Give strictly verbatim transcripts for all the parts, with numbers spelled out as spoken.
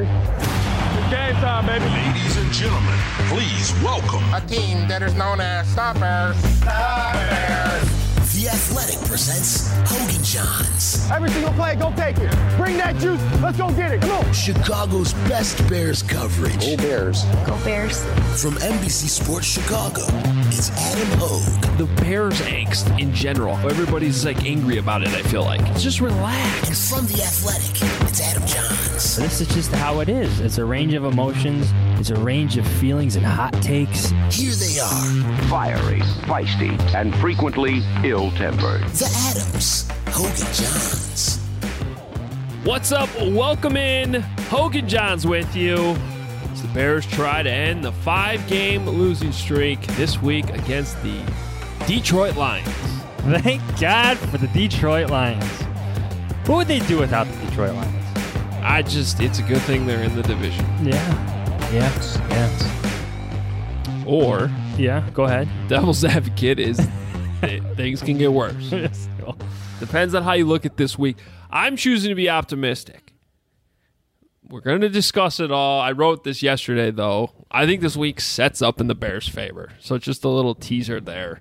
ready. It's game time, baby. Ladies and gentlemen, please welcome a team that is known as Stoppers. Stoppers. The Athletic presents Hogan Johns. Every single play, go take it. Bring that juice. Let's go get it. Come on. Chicago's best Bears coverage. Go Bears. Go Bears. From N B C Sports Chicago, it's Adam Hogue. The Bears angst in general. Everybody's like angry about it, I feel like. Just relax. And from The Athletic, it's Adam Johns. This is just how it is. It's a range of emotions. It's a range of feelings and hot takes. Here they are. Fiery, feisty, and frequently ill-tempered. The Adams. Hogan Johns. What's up? Welcome in. Hogan Johns with you. As the Bears try to end the five-game losing streak this week against the Detroit Lions. Thank God for the Detroit Lions. What would they do without the Detroit Lions? I just, it's a good thing they're in the division. Yeah. Yes. Yes. Or, yeah, go ahead. Devil's advocate is things can get worse. Depends on how you look at this week. I'm choosing to be optimistic. We're going to discuss it all. I wrote this yesterday, though. I think this week sets up in the Bears' favor. So just a little teaser there.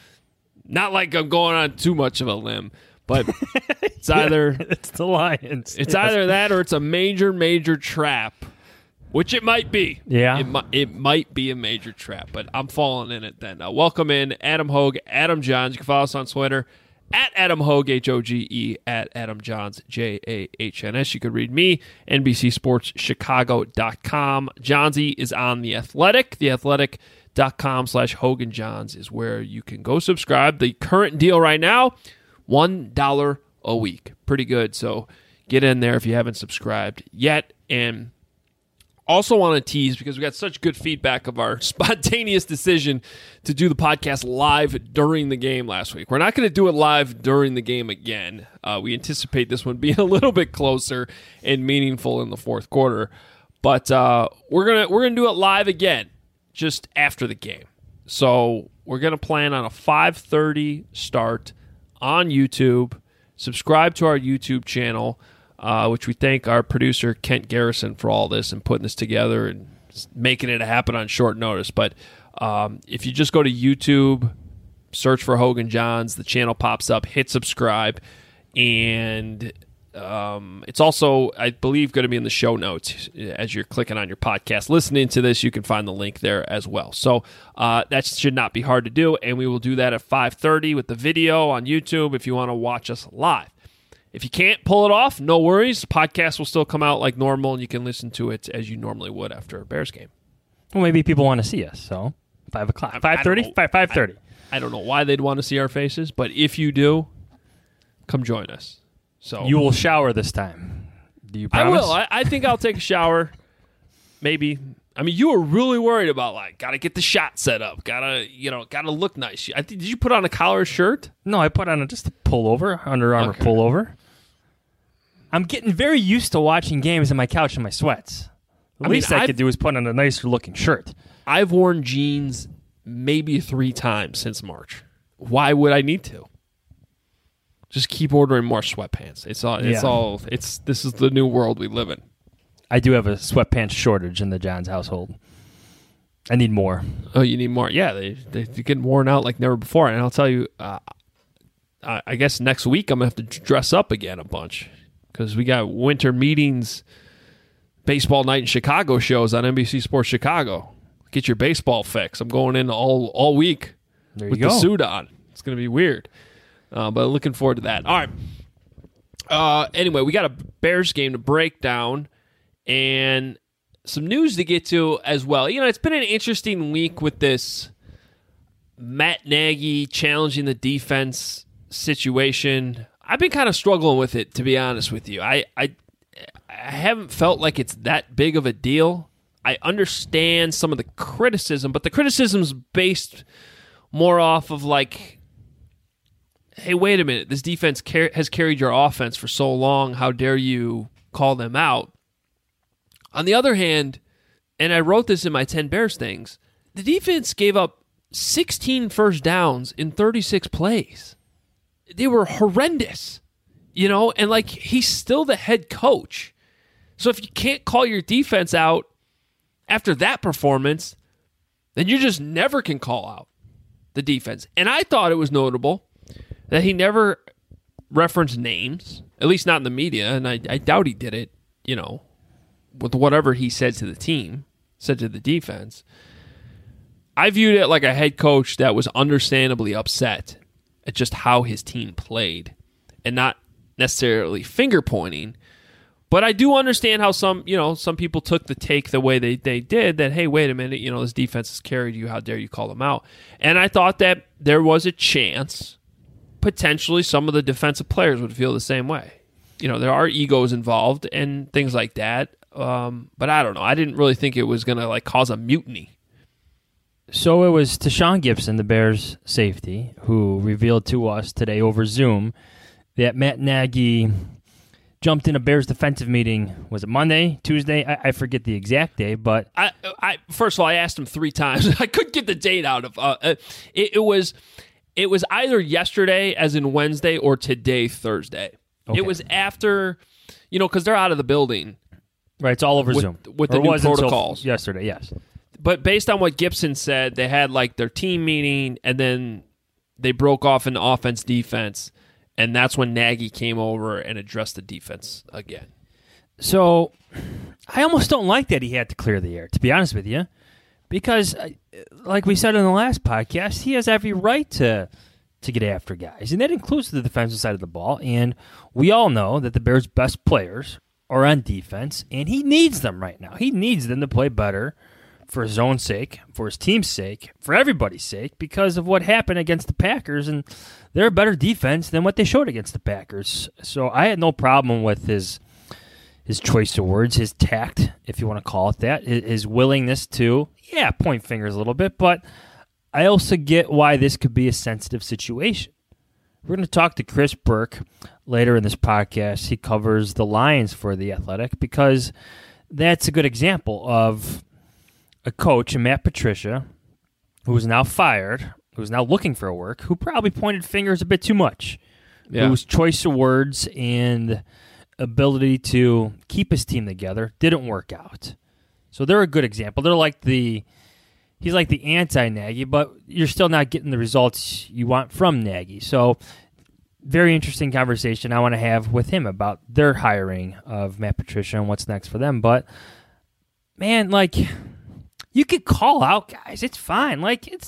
Not like I'm going on too much of a limb, but it's either it's the Lions. It's yes. either that or it's a major, major trap, which it might be. Yeah, it, mi- it might be a major trap, but I'm falling in it then. Now, welcome in Adam Hogue, Adam Johns. You can follow us on Twitter at Adam Hogue, H O G E, at Adam Johns, J A H N S. You could read me, N B C Sports Chicago dot com. Johnsy is on The Athletic. The Athletic. Dot com slash Hogan Johns is where you can go subscribe. The current deal right now, one dollar a week. Pretty good. So get in there if you haven't subscribed yet. And also want to tease, because we got such good feedback of our spontaneous decision to do the podcast live during the game last week. We're not going to do it live during the game again. Uh, we anticipate this one being a little bit closer and meaningful in the fourth quarter. But uh, we're gonna we're gonna do it live again, just after the game. So we're going to plan on a five thirty start on YouTube. Subscribe to our YouTube channel, uh, which we thank our producer, Kent Garrison, for all this and putting this together and making it happen on short notice. But um, if you just go to YouTube, search for Hogan Johns, the channel pops up, hit subscribe, and Um, it's also, I believe, going to be in the show notes as you're clicking on your podcast. Listening to this, you can find the link there as well. So uh, that should not be hard to do, and we will do that at five thirty with the video on YouTube if you want to watch us live. If you can't pull it off, no worries. The podcast will still come out like normal, and you can listen to it as you normally would after a Bears game. Well, maybe people want to see us, so five o'clock. five thirty? five thirty. I, I don't know why they'd want to see our faces, but if you do, come join us. So you will shower this time. Do you promise? I will. I, I think I'll take a shower. Maybe. I mean, you were really worried about, like, got to get the shot set up. Got to, you know, got to look nice. I think, did you put on a collar shirt? No, I put on a, just a pullover, Under Armour okay. pullover. I'm getting very used to watching games on my couch in my sweats. The I least mean, I I've, could do is put on a nicer looking shirt. I've worn jeans maybe three times since March. Why would I need to? Just keep ordering more sweatpants. It's all. It's yeah. all. It's this is the new world we live in. I do have a sweatpants shortage in the Johns household. I need more. Oh, you need more? Yeah, they they they're getting worn out like never before. And I'll tell you, uh, I, I guess next week I'm gonna have to dress up again a bunch because we got winter meetings, baseball night in Chicago shows on N B C Sports Chicago. Get your baseball fix. I'm going in all all week there you with go. the suit on. It's gonna be weird. Uh, but looking forward to that. All right. Uh, anyway, we got a Bears game to break down and some news to get to as well. You know, it's been an interesting week with this Matt Nagy challenging the defense situation. I've been kind of struggling with it, to be honest with you. I, I, I haven't felt like it's that big of a deal. I understand some of the criticism, but the criticism's based more off of like, hey, wait a minute, this defense car- has carried your offense for so long. How dare you call them out? On the other hand, and I wrote this in my ten Bears things, the defense gave up sixteen first downs in thirty-six plays. They were horrendous, you know, and like he's still the head coach. So if you can't call your defense out after that performance, then you just never can call out the defense. And I thought it was notable that he never referenced names, at least not in the media, and I, I doubt he did it, you know, with whatever he said to the team, said to the defense. I viewed it like a head coach that was understandably upset at just how his team played and not necessarily finger pointing. But I do understand how some, you know, some people took the take the way they, they did, that, hey, wait a minute, you know, this defense has carried you. How dare you call them out? And I thought that there was a chance potentially some of the defensive players would feel the same way. You know, there are egos involved and things like that. Um, but I don't know. I didn't really think it was going to, like, cause a mutiny. So it was Tashawn Gipson, the Bears' safety, who revealed to us today over Zoom that Matt Nagy jumped in a Bears defensive meeting. Was it Monday, Tuesday? I, I forget the exact day, but I, I first of all, I asked him three times. I couldn't get the date out of. Uh, it, it was, it was either yesterday, as in Wednesday, or today, Thursday. Okay. It was after, you know, because they're out of the building. Right, it's all over with, Zoom with the or new protocols. Yesterday, yes. But based on what Gipson said, they had like their team meeting, and then they broke off into offense, defense. And that's when Nagy came over and addressed the defense again. So I almost don't like that he had to clear the air, to be honest with you, because, like we said in the last podcast, he has every right to to get after guys, and that includes the defensive side of the ball. And we all know that the Bears' best players are on defense, and he needs them right now. He needs them to play better for his own sake, for his team's sake, for everybody's sake, because of what happened against the Packers, and they're a better defense than what they showed against the Packers. So I had no problem with his his choice of words, his tact, if you want to call it that, his willingness to, yeah, point fingers a little bit, but I also get why this could be a sensitive situation. We're going to talk to Chris Burke later in this podcast. He covers the Lions for The Athletic, because that's a good example of a coach, Matt Patricia, who is now fired, who's now looking for work, who probably pointed fingers a bit too much, yeah. whose choice of words and ability to keep his team together didn't work out. So they're a good example. They're like the, he's like the anti-Nagy, but you're still not getting the results you want from Nagy. So very interesting conversation I want to have with him about their hiring of Matt Patricia and what's next for them. But, man, like, you could call out guys. It's fine. Like, it's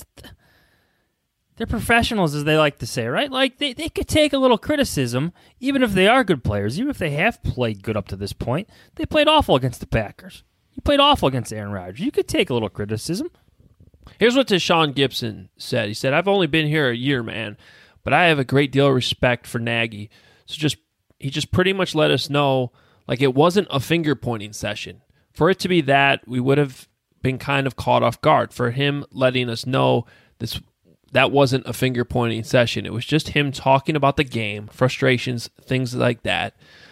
they're professionals, as they like to say, right? Like, they, they could take a little criticism, even if they are good players, even if they have played good up to this point. They played awful against the Packers. You played awful against Aaron Rodgers. You could take a little criticism. Here's what Tashawn Gipson said. He said, I've only been here a year, man, but I have a great deal of respect for Nagy. So just he just pretty much let us know, like, it wasn't a finger-pointing session. For it to be that, we would have been kind of caught off guard. For him letting us know this that wasn't a finger-pointing session. It was just him talking about the game, frustrations, things like that.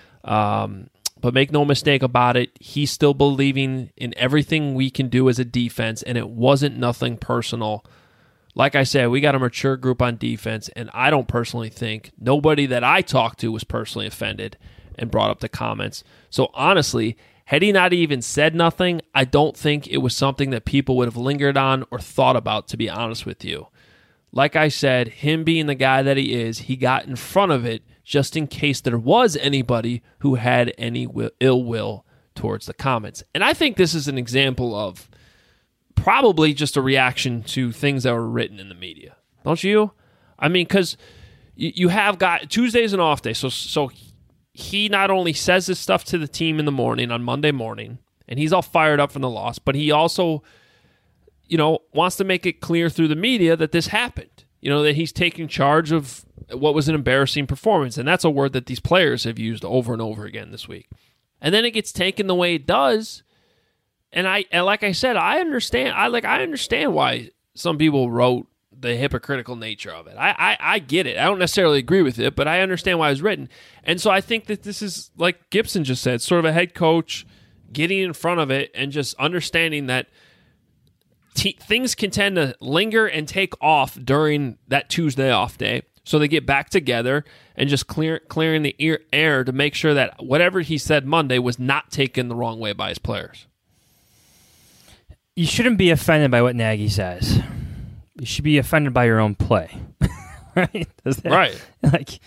Um, but make no mistake about it, he's still believing in everything we can do as a defense, and it wasn't nothing personal. Like I said, we got a mature group on defense, and I don't personally think nobody that I talked to was personally offended and brought up the comments. So honestly, had he not even said nothing, I don't think it was something that people would have lingered on or thought about, to be honest with you. Like I said, him being the guy that he is, he got in front of it just in case there was anybody who had any will, ill will towards the comments. And I think this is an example of probably just a reaction to things that were written in the media. Don't you? I mean, because you, you have got Tuesday's an off day, so so he not only says this stuff to the team in the morning on Monday morning, and he's all fired up from the loss, but he also, you know, wants to make it clear through the media that this happened. You know, that he's taking charge of what was an embarrassing performance, and that's a word that these players have used over and over again this week. And then it gets taken the way it does, and I, and like I said, I understand. I like I understand why some people wrote the hypocritical nature of it. I, I, I get it. I don't necessarily agree with it, but I understand why it was written. And so I think that this is, like Gipson just said, sort of a head coach getting in front of it and just understanding that T- things can tend to linger and take off during that Tuesday off day. so they get back together and just clear clearing the ear, air to make sure that whatever he said Monday was not taken the wrong way by his players. You shouldn't be offended by what Nagy says. You should be offended by your own play. Right? Does that, Right. Like,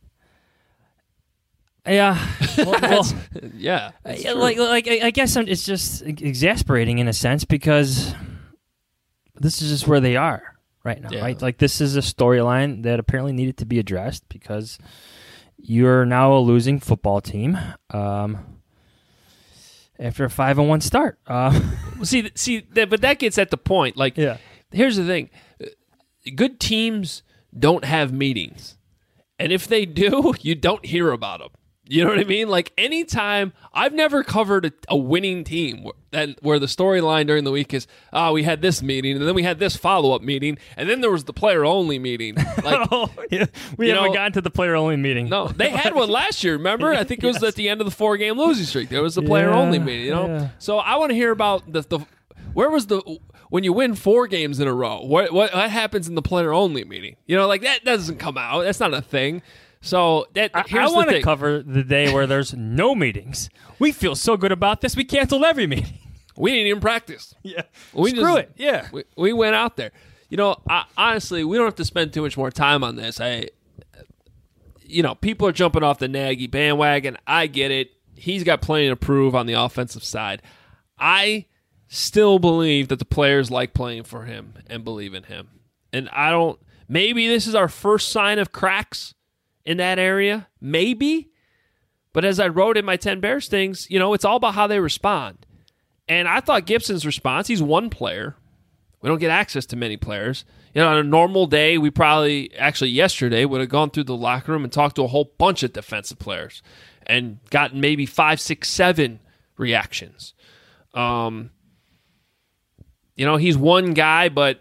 yeah. Well, well, yeah. I, like, like I I guess I'm, it's just exasperating in a sense because this is just where they are right now. Yeah. Right? Like, this is a storyline that apparently needed to be addressed because you're now a losing football team. Um, after a five and one start. Uh, see, see, that, but that gets at the point. Like, Yeah. here's the thing: good teams don't have meetings, and if they do, you don't hear about them. You know what I mean? Like, anytime, I've never covered a, a winning team where, that, where the storyline during the week is, oh, we had this meeting, and then we had this follow-up meeting, and then there was the player-only meeting. Like, oh, yeah. We you haven't know, gotten to the player-only meeting. no, they had one last year, remember? I think it was Yes. at the end of the four-game losing streak. There was the player-only Yeah, meeting, you know? yeah. So I want to hear about the, the where was the when you win four games in a row, what, what what happens in the player-only meeting? You know, like, that doesn't come out. That's not a thing. So that I, here's I want the to thing. cover the day where there's no meetings. We feel so good about this, we canceled every meeting. We didn't even practice. Yeah. We Screw just- it. Yeah. We, we went out there. You know, I, honestly, we don't have to spend too much more time on this. I, you know, people are jumping off the Nagy bandwagon. I get it. He's got plenty to prove on the offensive side. I still believe that the players like playing for him and believe in him. And I don't. Maybe this is our first sign of cracks in that area. Maybe. But as I wrote in my ten Bears things, you know, it's all about how they respond. And I thought Gibson's response, he's one player. We don't get access to many players. You know, on a normal day, we probably, actually yesterday, would have gone through the locker room and talked to a whole bunch of defensive players and gotten maybe five, six, seven reactions. Um, you know, he's one guy, but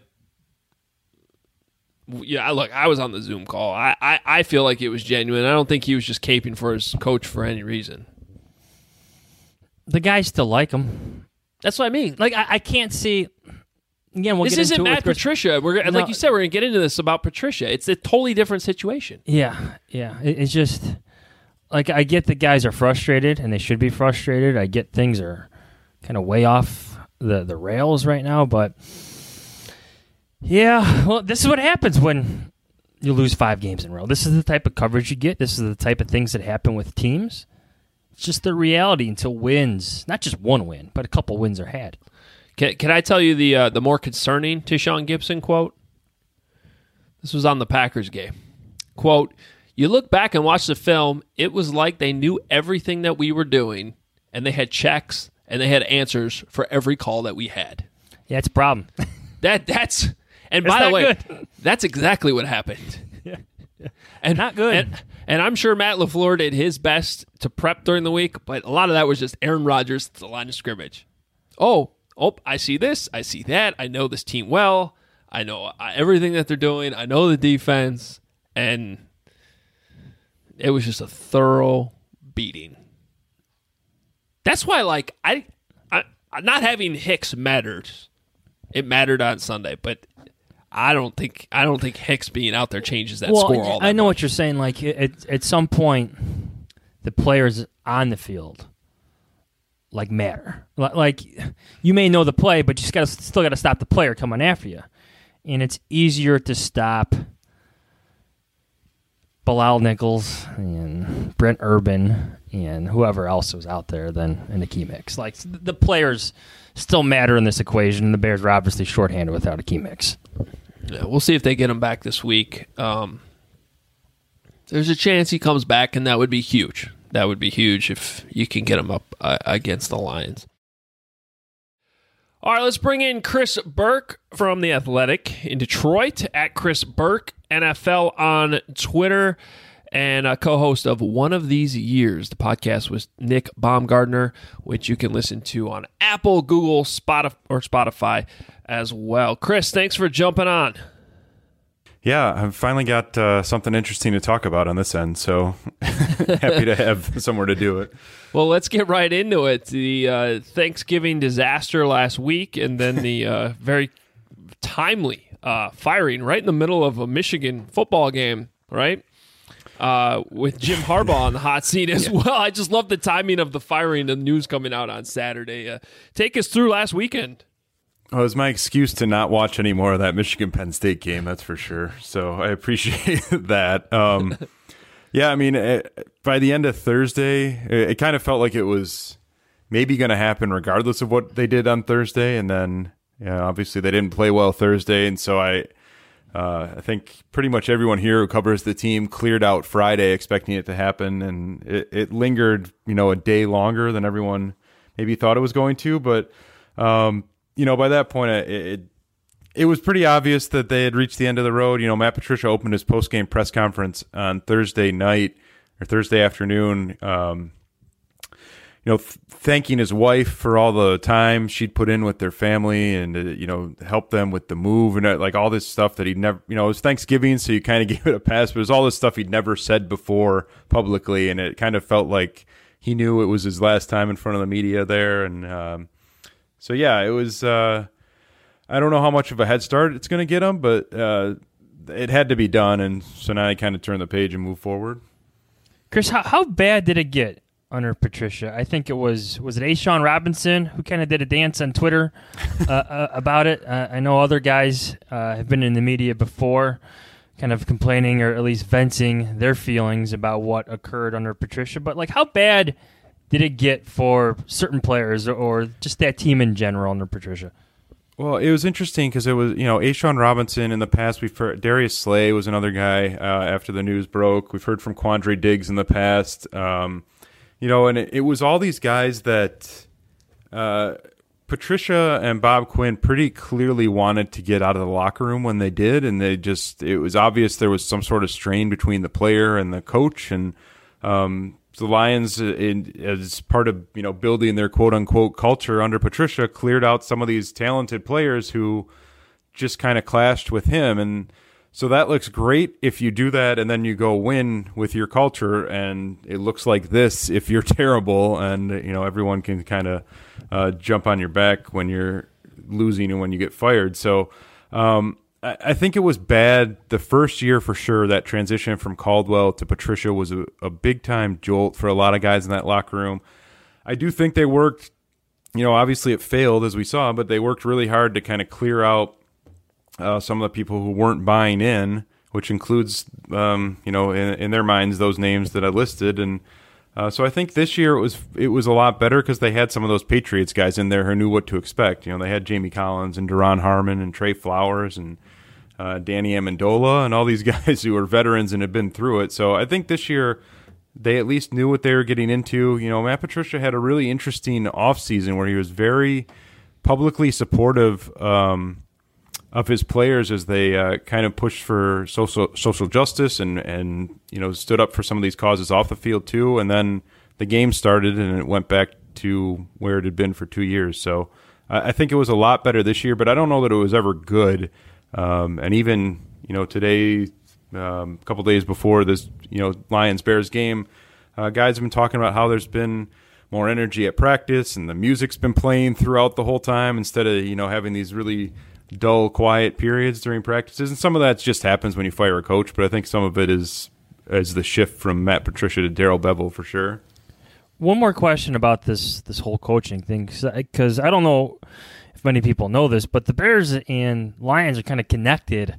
yeah, look, I was on the Zoom call. I, I, I feel like it was genuine. I don't think he was just caping for his coach for any reason. The guys still like him. That's what I mean. Like, I, I can't see. Again, we'll This get isn't into it Matt with Chris- Patricia. We're gonna- No. like you said, we're going to get into this about Patricia. It's a totally different situation. Yeah, yeah. It, it's just like I get that guys are frustrated, and they should be frustrated. I get things are kind of way off the the rails right now, but yeah. Well, this is what happens when you lose five games in a row. This is the type of coverage you get. This is the type of things that happen with teams. It's just the reality until wins, not just one win, but a couple wins are had. Can, can I tell you the uh, the more concerning Tyshawn Gibson quote? This was on the Packers game. Quote, "You look back and watch the film, it was like they knew everything that we were doing, and they had checks, and they had answers for every call that we had." Yeah, it's a problem. That That's... And It's by the not way, good. that's exactly what happened. Yeah. And Not good. And, and I'm sure Matt LaFleur did his best to prep during the week, but a lot of that was just Aaron Rodgers to the line of scrimmage. Oh, oh, I see this. I see that. I know this team well. I know uh, everything that they're doing. I know the defense. And it was just a thorough beating. That's why, like, I, I not having Hicks mattered. It mattered on Sunday, but I don't think I don't think Hicks being out there changes that well, score all that I know much. what you're saying. Like at at some point, the players on the field like matter. Li- Like you may know the play, but you just got to still got to stop the player coming after you, and it's easier to stop Bilal Nichols and Brent Urban and whoever else was out there than in the key mix. Like the players still matter in this equation. The Bears are obviously shorthanded without a key mix. Yeah, we'll see if they get him back this week. Um, there's a chance he comes back, and that would be huge. That would be huge if you can get him up uh, against the Lions. All right, let's bring in Chris Burke from The Athletic in Detroit, at Chris Burke N F L on Twitter, and a co-host of One of These Years, the podcast with Nick Baumgardner, which you can listen to on Apple, Google, Spotify, or Spotify as well. Chris, thanks for jumping on. Yeah, I've finally got uh, something interesting to talk about on this end, so happy to have somewhere to do it. Well, let's get right into it. The uh, Thanksgiving disaster last week, and then the uh, very timely uh, firing right in the middle of a Michigan football game right? Uh, with Jim Harbaugh on the hot seat as yeah. well. I just love the timing of the firing, the news coming out on Saturday. Uh, take us through last weekend. Well, it was my excuse to not watch any more of that Michigan-Penn State game, that's for sure. So I appreciate that. Um, yeah, I mean, it, by the end of Thursday, it, it kind of felt like it was maybe going to happen regardless of what they did on Thursday. And then, yeah, obviously they didn't play well Thursday. And so I, uh, I think pretty much everyone here who covers the team cleared out Friday expecting it to happen. And it, it lingered, you know, a day longer than everyone maybe thought it was going to. But, um, you know, by that point, it, it it was pretty obvious that they had reached the end of the road. You know, Matt Patricia opened his post-game press conference on Thursday night or Thursday afternoon, um, you know, th- thanking his wife for all the time she'd put in with their family and, uh, you know, help them with the move and uh, like all this stuff that he'd never, you know, it was Thanksgiving, so you kind of gave it a pass, but it was all this stuff he'd never said before publicly, and it kind of felt like he knew it was his last time in front of the media there. And, um, So, yeah, it was uh, – I don't know how much of a head start it's going to get him, but uh, it had to be done, and so now he kind of turned the page and moved forward. Chris, how, how bad did it get under Patricia? I think it was – was it A'Shawn Robinson who kind of did a dance on Twitter uh, uh, about it? Uh, I know other guys uh, have been in the media before kind of complaining or at least venting their feelings about what occurred under Patricia, but, like, how bad – did it get for certain players or just that team in general under Patricia? Well, it was interesting because it was, you know, A'Shawn Robinson in the past. We've heard Darius Slay was another guy uh, after the news broke. We've heard from Quandre Diggs in the past. Um, you know, and it, it was all these guys that uh, Patricia and Bob Quinn pretty clearly wanted to get out of the locker room when they did, and they just, it was obvious there was some sort of strain between the player and the coach, and um the Lions, in, as part of you know building their quote unquote culture under Patricia, cleared out some of these talented players who just kind of clashed with him, and so that looks great if you do that, and then you go win with your culture, and it looks like this if you're terrible, and you know everyone can kind of uh, jump on your back when you're losing and when you get fired. So. Um, I think it was bad the first year for sure. That transition from Caldwell to Patricia was a, a big-time jolt for a lot of guys in that locker room. I do think they worked, you know, obviously it failed as we saw, but they worked really hard to kind of clear out uh, some of the people who weren't buying in, which includes, um, you know, in, in their minds, those names that I listed. And uh, so I think this year it was it was a lot better because they had some of those Patriots guys in there who knew what to expect. You know, they had Jamie Collins and Duron Harmon and Trey Flowers and Uh, Danny Amendola and all these guys who are veterans and have been through it. So I think this year they at least knew what they were getting into. You know, Matt Patricia had a really interesting offseason where he was very publicly supportive um, of his players as they uh, kind of pushed for social social justice and, and, you know, stood up for some of these causes off the field too. And then the game started and it went back to where it had been for two years. So uh, I think it was a lot better this year, but I don't know that it was ever good. Um, and even, you know, today, um, a couple days before this, you know, Lions-Bears game, uh, guys have been talking about how there's been more energy at practice and the music's been playing throughout the whole time instead of, you know, having these really dull, quiet periods during practices. And some of that just happens when you fire a coach, but I think some of it is, is the shift from Matt Patricia to Darrell Bevell for sure. One more question about this, this whole coaching thing, because I don't know if many people know this, but the Bears and Lions are kind of connected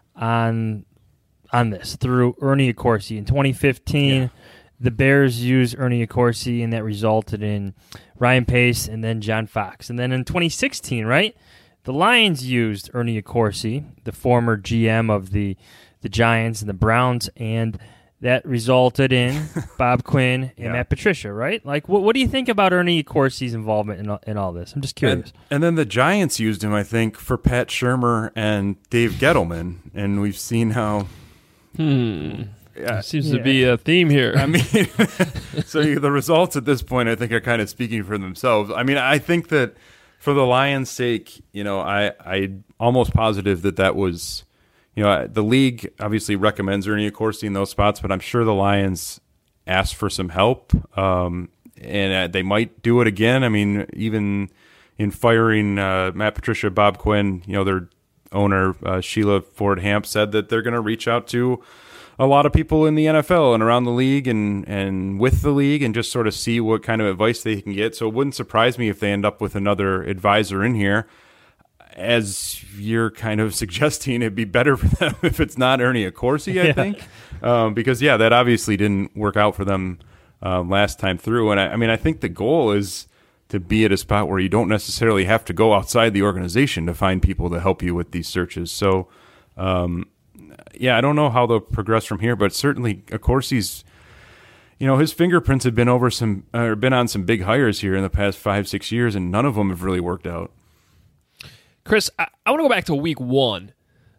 on on this through Ernie Accorsi. In twenty fifteen, yeah. the Bears used Ernie Accorsi, and that resulted in Ryan Pace and then John Fox. And then in twenty sixteen, right, the Lions used Ernie Accorsi, the former G M of the the Giants and the Browns, and that resulted in Bob Quinn and yeah. Matt Patricia, right? Like, what what do you think about Ernie Accorsi's involvement in all, in all this? I'm just curious. And, and then the Giants used him, I think, for Pat Shurmur and Dave Gettleman, and we've seen how. Hmm. Yeah. Seems yeah. to be a theme here. I mean, so the results at this point, I think, are kind of speaking for themselves. I mean, I think that for the Lions' sake, you know, I I'm almost positive that that was. You know, the league obviously recommends Ernie Accorsi in those spots, but I'm sure the Lions asked for some help, um, and they might do it again. I mean, even in firing uh, Matt Patricia, Bob Quinn, you know, their owner, uh, Sheila Ford Hamp, said that they're going to reach out to a lot of people in the N F L and around the league and, and with the league and just sort of see what kind of advice they can get. So it wouldn't surprise me if they end up with another advisor in here. As you're kind of suggesting, it'd be better for them if it's not Ernie Accorsi, I yeah. think. Um, because, yeah, that obviously didn't work out for them uh, last time through. And, I, I mean, I think the goal is to be at a spot where you don't necessarily have to go outside the organization to find people to help you with these searches. So, um, yeah, I don't know how they'll progress from here, but certainly Accorsi's, you know, his fingerprints have been over some, or been on some big hires here in the past five, six years, and none of them have really worked out. Chris, I, I want to go back to week one.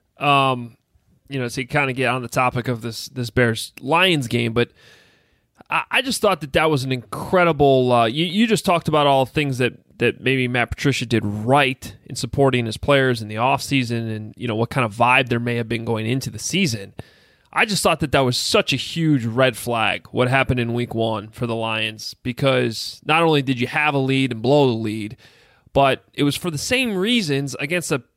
Um, you know, to kind of get on the topic of this this Bears Lions game, but I, I just thought that that was an incredible. Uh, you you just talked about all the things that that maybe Matt Patricia did right in supporting his players in the offseason, and you know what kind of vibe there may have been going into the season. I just thought that that was such a huge red flag what happened in week one for the Lions, because not only did you have a lead and blow the lead, but it was for the same reasons against a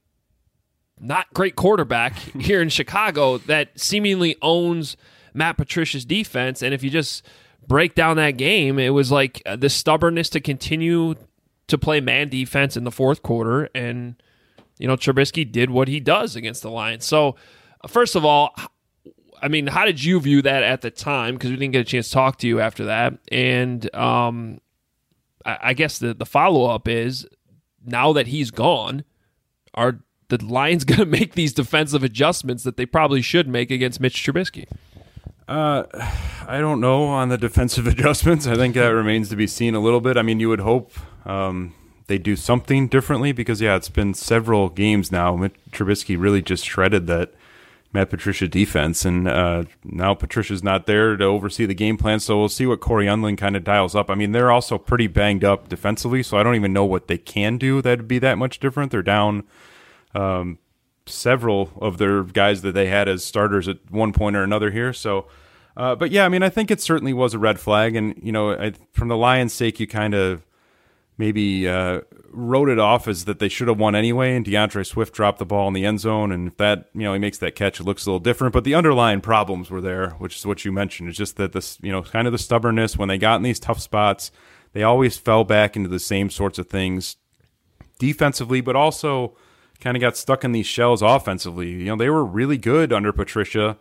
not great quarterback here in Chicago that seemingly owns Matt Patricia's defense. And if you just break down that game, it was like the stubbornness to continue to play man defense in the fourth quarter. And, you know, Trubisky did what he does against the Lions. So, first of all, I mean, how did you view that at the time? Because we didn't get a chance to talk to you after that. And um, I, I guess the, the follow-up is, now that he's gone, are the Lions going to make these defensive adjustments that they probably should make against Mitch Trubisky? Uh, I don't know on the defensive adjustments. I think that remains to be seen a little bit. I mean, you would hope um, they do something differently because, yeah, it's been several games now. Mitch Trubisky really just shredded that Matt Patricia defense, and uh, now Patricia's not there to oversee the game plan, so we'll see what Corey Undlin kind of dials up. I mean, they're also pretty banged up defensively, so I don't even know what they can do that would be that much different. They're down um, several of their guys that they had as starters at one point or another here. So, uh, but yeah, I mean, I think it certainly was a red flag, and you know, I, from the Lions' sake, you kind of maybe uh, wrote it off as that they should have won anyway, and DeAndre Swift dropped the ball in the end zone, and if that, you know, he makes that catch, it looks a little different. But the underlying problems were there, which is what you mentioned. It's just that this, you know, kind of the stubbornness when they got in these tough spots, they always fell back into the same sorts of things defensively, but also kind of got stuck in these shells offensively. You know, they were really good under Patricia,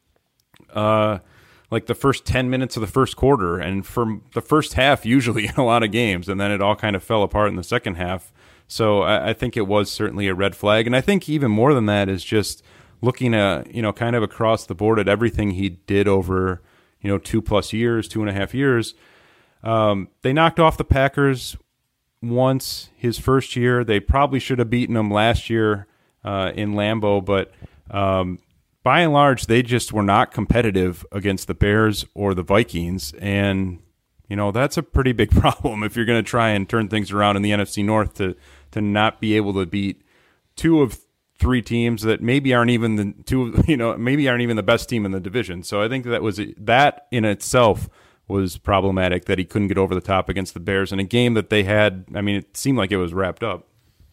uh, like the first ten minutes of the first quarter, and for the first half usually in a lot of games, and then it all kind of fell apart in the second half. So I, I think it was certainly a red flag, and I think even more than that is just looking at, you know, kind of across the board at everything he did over, you know, two plus years, two and a half years. Um, they knocked off the Packers once his first year. They probably should have beaten them last year uh, in Lambeau, but um, by and large, they just were not competitive against the Bears or the Vikings. And, you know, that's a pretty big problem if you're going to try and turn things around in the N F C North to, to not be able to beat two of three teams that maybe aren't even the two, you know, maybe aren't even the best team in the division. So I think that was that in itself was problematic, that he couldn't get over the top against the Bears in a game that they had. I mean, it seemed like it was wrapped up.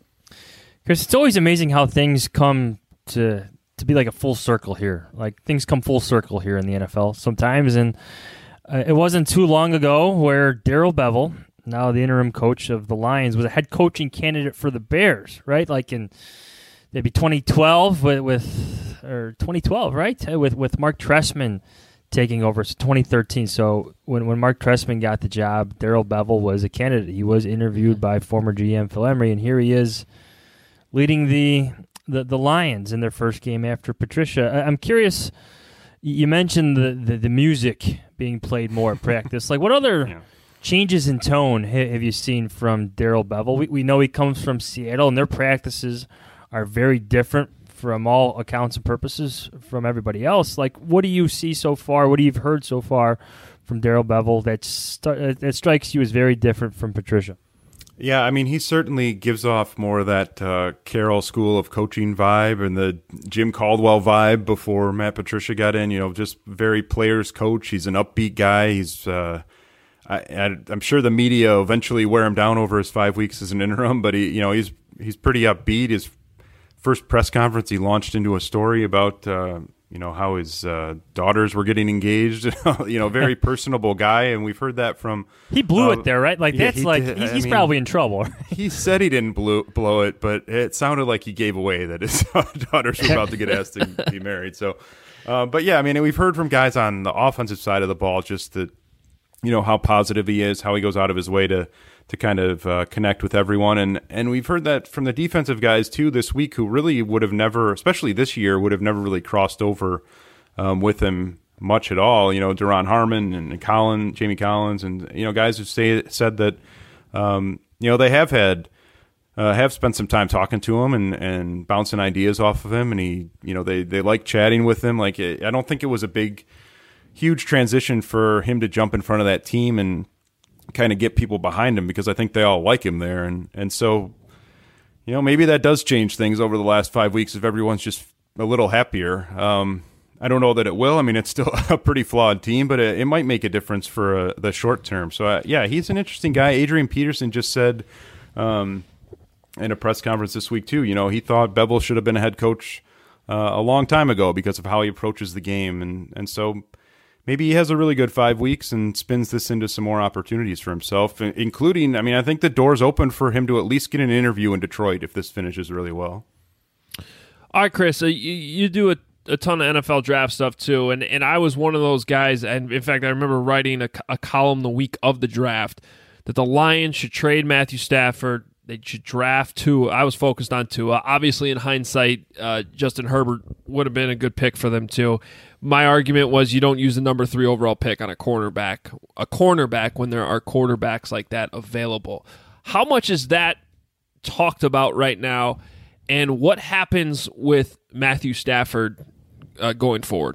Chris, it's always amazing how things come to to be like a full circle here. Like things come full circle here in the N F L sometimes, and uh, it wasn't too long ago where Darrell Bevell, now the interim coach of the Lions, was a head coaching candidate for the Bears, right? Like in maybe twenty twelve with, with or twenty twelve, right? With with Mark Trestman taking over, so twenty thirteen. So when, when Mark Trestman got the job, Darrell Bevell was a candidate. He was interviewed by former G M Phil Emery, and here he is leading the the, the Lions in their first game after Patricia. I, I'm curious, you mentioned the, the, the music being played more at practice. Like, what other yeah. changes in tone ha- have you seen from Darrell Bevell? We, we know he comes from Seattle, and their practices are very different from all accounts and purposes from everybody else. Like, what do you see so far? What do you've heard so far from Darrell Bevell that st- that strikes you as very different from Patricia? Yeah, I mean, he certainly gives off more of that uh, Carroll School of Coaching vibe and the Jim Caldwell vibe before Matt Patricia got in. You know, just very players coach. He's an upbeat guy. He's, uh, I, I, I'm sure the media eventually wear him down over his five weeks as an interim, but he, you know, he's he's pretty upbeat. His first press conference, he launched into a story about uh, you know, how his uh, daughters were getting engaged. You know, very personable guy, and we've heard that from. He blew uh, it there, right? Like yeah, that's he like did. he's, I he's mean, probably in trouble. He said he didn't blow, blow it, but it sounded like he gave away that his daughters were about to get asked to be married. So, uh, but yeah, I mean, we've heard from guys on the offensive side of the ball just that, you know, how positive he is, how he goes out of his way to to kind of uh, connect with everyone. And, and we've heard that from the defensive guys, too, this week, who really would have never, especially this year, would have never really crossed over um, with him much at all. You know, Duron Harmon and Collins, Jamie Collins, and, you know, guys who say said that, um, you know, they have had, uh, have spent some time talking to him and, and bouncing ideas off of him. And he, you know, they, they like chatting with him. Like, I don't think it was a big, huge transition for him to jump in front of that team and kind of get people behind him, because I think they all like him there. And, and so, you know, maybe that does change things over the last five weeks if everyone's just a little happier. Um, I don't know that it will. I mean, it's still a pretty flawed team, but it, it might make a difference for uh, the short term. So, uh, yeah, he's an interesting guy. Adrian Peterson just said um, in a press conference this week, too, you know, he thought Bevel should have been a head coach uh, a long time ago because of how he approaches the game. And, and so maybe he has a really good five weeks and spins this into some more opportunities for himself, including, I mean, I think the door's open for him to at least get an interview in Detroit if this finishes really well. All right, Chris, uh, you, you do a, a ton of N F L draft stuff too, and, and I was one of those guys, and in fact, I remember writing a, a column the week of the draft that the Lions should trade Matthew Stafford. They should draft Tua. I was focused on Tua. Obviously, in hindsight, uh, Justin Herbert would have been a good pick for them too. My argument was you don't use the number three overall pick on a cornerback, a cornerback when there are quarterbacks like that available. How much is that talked about right now, and what happens with Matthew Stafford uh, going forward?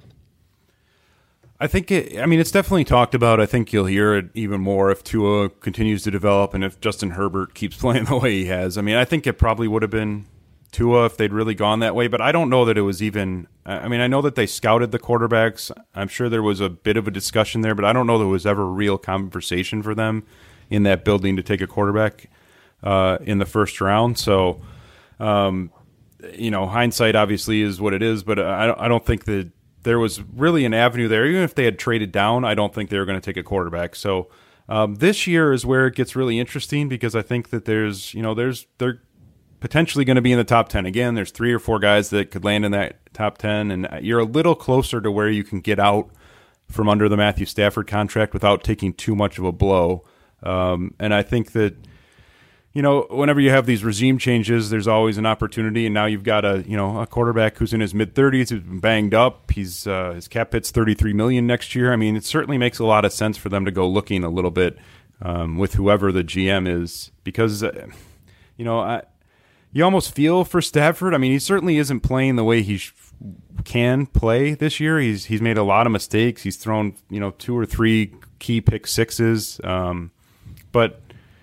I think it, I mean, it's definitely talked about. I think you'll hear it even more if Tua continues to develop and if Justin Herbert keeps playing the way he has. I mean, I think it probably would have been Tua if they'd really gone that way, but I don't know that it was even, I mean, I know that they scouted the quarterbacks. I'm sure there was a bit of a discussion there, but I don't know there was ever a real conversation for them in that building to take a quarterback uh, in the first round. So, um, you know, hindsight obviously is what it is, but I, I don't think that there was really an avenue there. Even if they had traded down, I don't think they were going to take a quarterback. So um, this year is where it gets really interesting, because I think that there's, you know, there's they're potentially going to be in the top ten again. There's three or four guys that could land in that top ten, and you're a little closer to where you can get out from under the Matthew Stafford contract without taking too much of a blow. Um, and I think that, you know, whenever you have these regime changes, there's always an opportunity. And now you've got a, you know, a quarterback who's in his mid thirties, who's been banged up. He's uh, his cap hit's thirty-three million dollars next year. I mean, it certainly makes a lot of sense for them to go looking a little bit um, with whoever the G M is, because, uh, you know, I, you almost feel for Stafford. I mean, he certainly isn't playing the way he sh- can play this year. He's he's made a lot of mistakes. He's thrown, you know, two or three key pick sixes, um, but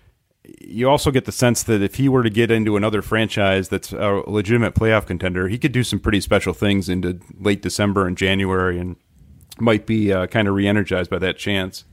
you also get the sense that if he were to get into another franchise that's a legitimate playoff contender, he could do some pretty special things into late December and January, and might be uh, kind of re-energized by that chance.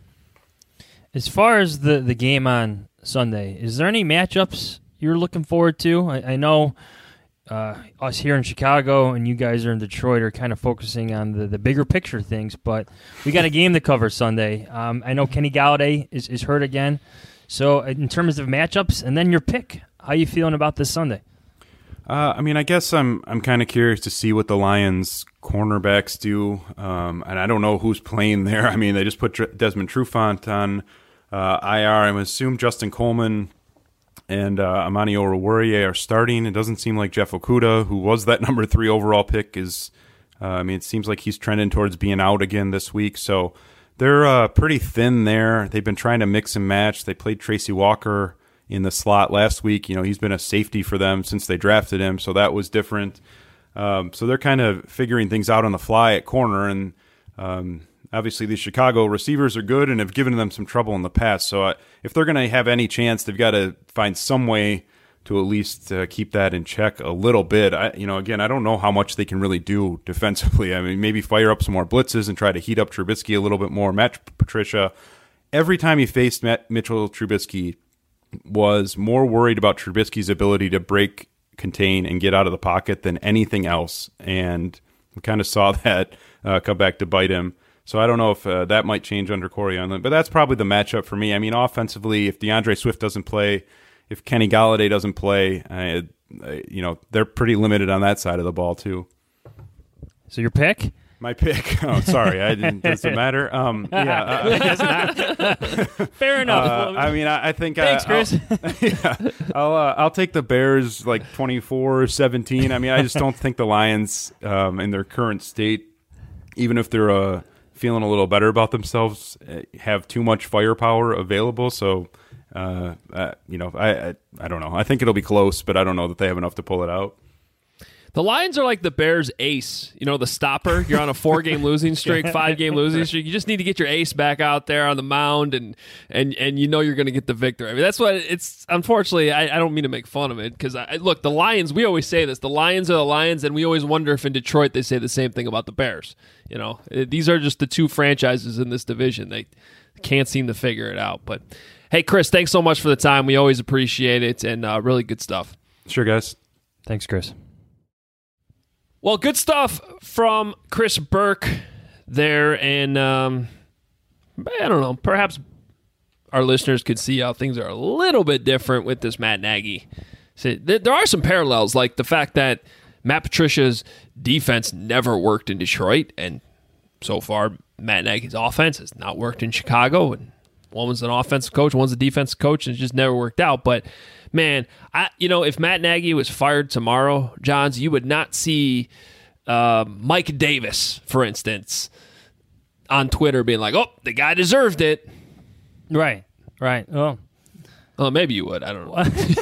As far as the, the game on Sunday, is there any matchups you're looking forward to? I, I know uh, us here in Chicago and you guys are in Detroit are kind of focusing on the, the bigger picture things, but we got a game to cover Sunday. Um, I know Kenny Galladay is, is hurt again. So in terms of matchups, and then your pick, how you feeling about this Sunday? Uh, I mean, I guess I'm I'm kind of curious to see what the Lions cornerbacks do, um, and I don't know who's playing there. I mean, they just put Desmond Trufant on uh, I R. I'm assume Justin Coleman and uh, Amani Oruwariye are starting. It doesn't seem like Jeff Okudah, who was that number three overall pick, is. Uh, I mean, it seems like he's trending towards being out again this week. So they're uh, pretty thin there. They've been trying to mix and match. They played Tracy Walker in the slot last week. You know, he's been a safety for them since they drafted him, so that was different. Um, so they're kind of figuring things out on the fly at corner, and um, obviously these Chicago receivers are good and have given them some trouble in the past. So uh, if they're going to have any chance, they've got to find some way to at least uh, keep that in check a little bit. I, you know, again, I don't know how much they can really do defensively. I mean, maybe fire up some more blitzes and try to heat up Trubisky a little bit more. Matt Patricia, every time he faced Matt Mitchell Trubisky, was more worried about Trubisky's ability to break, contain, and get out of the pocket than anything else. And We kind of saw that uh, come back to bite him. So I don't know if uh, that might change under Corey Unlin, but that's probably the matchup for me. I mean, offensively, if DeAndre Swift doesn't play, if Kenny Golladay doesn't play, I, I, you know, they're pretty limited on that side of the ball too. So your pick? My pick. Oh, sorry. I didn't. Does it matter? Um, yeah. Uh, I guess not. Fair enough. Uh, I mean, I, I think. Thanks, uh, Chris. I'll, yeah, I'll uh, I'll take the Bears like twenty-four seventeen. I mean, I just don't think the Lions, um, in their current state, even if they're uh, feeling a little better about themselves, have too much firepower available. So, uh, uh, you know, I, I I don't know. I think it'll be close, but I don't know that they have enough to pull it out. The Lions are like the Bears' ace, you know, the stopper. You're on a four-game losing streak, five-game losing streak. You just need to get your ace back out there on the mound, and and, and you know you're going to get the victory. I mean, that's what it's. Unfortunately, I, I don't mean to make fun of it because I look, the Lions. We always say this: the Lions are the Lions, and we always wonder if in Detroit they say the same thing about the Bears. You know, these are just the two franchises in this division. They can't seem to figure it out. But hey, Chris, thanks so much for the time. We always appreciate it, and uh, really good stuff. Sure, guys. Thanks, Chris. Well, good stuff from Chris Burke there, and um, I don't know, perhaps our listeners could see how things are a little bit different with this Matt Nagy. So there are some parallels, like the fact that Matt Patricia's defense never worked in Detroit, and so far Matt Nagy's offense has not worked in Chicago, and one was an offensive coach, one's a defensive coach, and it just never worked out. But man, I you know, if Matt Nagy was fired tomorrow, Johns, you would not see uh, Mike Davis, for instance, on Twitter being like, "Oh, the guy deserved it." Right, right. Well, well, maybe you would. I don't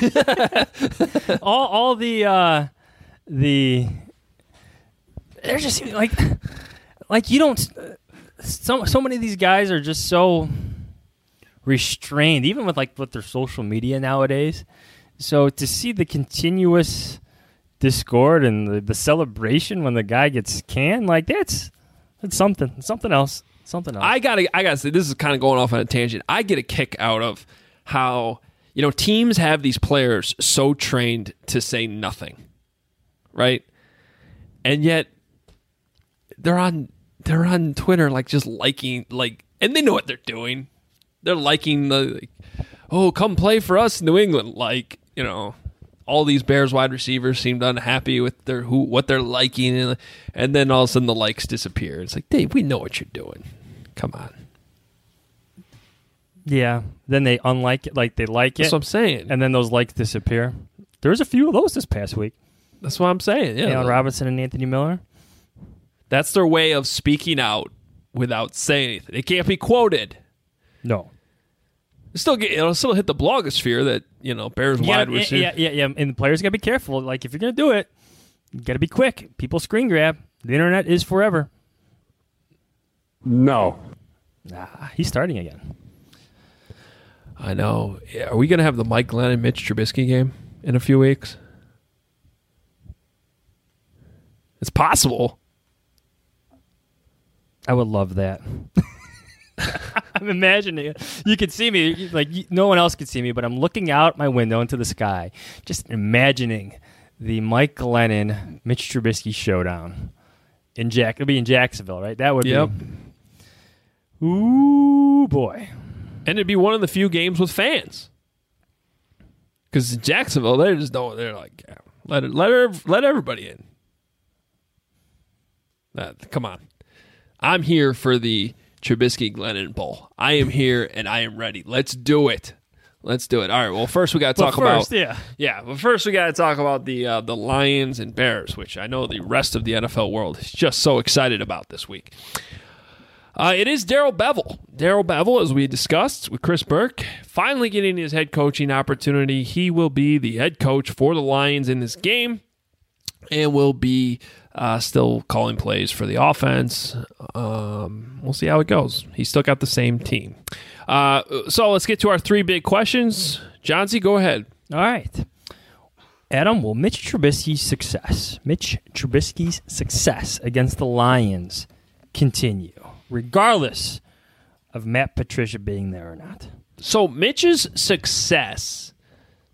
know. all, all the, uh, the, they're just like, like you don't. So so many of these guys are just so restrained, even with like with their social media nowadays. So to see the continuous discord and the, the celebration when the guy gets canned, like that's that's something, something else, something else. I gotta, I gotta say, this is kind of going off on a tangent. I get a kick out of how, you know, teams have these players so trained to say nothing, right? And yet they're on, they're on Twitter, like just liking, like, and they know what they're doing. They're liking the, like, oh, come play for us, New England. Like, you know, all these Bears wide receivers seemed unhappy with their who what they're liking, and, and then all of a sudden the likes disappear. It's like, Dave, we know what you're doing. Come on. Yeah. Then they unlike it, like they like it. That's what I'm saying. And then those likes disappear. There's a few of those this past week. That's what I'm saying. Yeah. Allen Robinson and Anthony Miller. That's their way of speaking out without saying anything. It can't be quoted. No. Still get, it'll still hit the blogosphere that, you know, Bears yeah, wide receiver. Yeah, yeah, yeah. And the players got to be careful. Like, if you're going to do it, you got to be quick. People screen grab. The internet is forever. No. Nah, he's starting again. I know. Are we going to have the Mike Glennon Mitch Trubisky game in a few weeks? It's possible. I would love that. I'm imagining it. You could see me, like no one else could see me, but I'm looking out my window into the sky, just imagining the Mike Glennon, Mitch Trubisky showdown in Jack. It'll be in Jacksonville, right? That would yep. be. Ooh boy! And it'd be one of the few games with fans, because in Jacksonville, they just don't. They're like, yeah, let it, let her, let everybody in. Uh, come on, I'm here for the Trubisky Glennon Bowl. I am here and I am ready. Let's do it. Let's do it. All right. Well, first we got to talk well, first, about yeah, yeah. But first we got to talk about the uh, the Lions and Bears, which I know the rest of the N F L world is just so excited about this week. Uh, it is Darrell Bevell. Darrell Bevell, as we discussed with Chris Burke, finally getting his head coaching opportunity. He will be the head coach for the Lions in this game, and will be uh, still calling plays for the offense. Um, we'll see how it goes. He's still got the same team. Uh, so let's get to our three big questions. Johnsy, go ahead. All right. Adam, will Mitch Trubisky's success, Mitch Trubisky's success against the Lions continue, regardless of Matt Patricia being there or not? So Mitch's success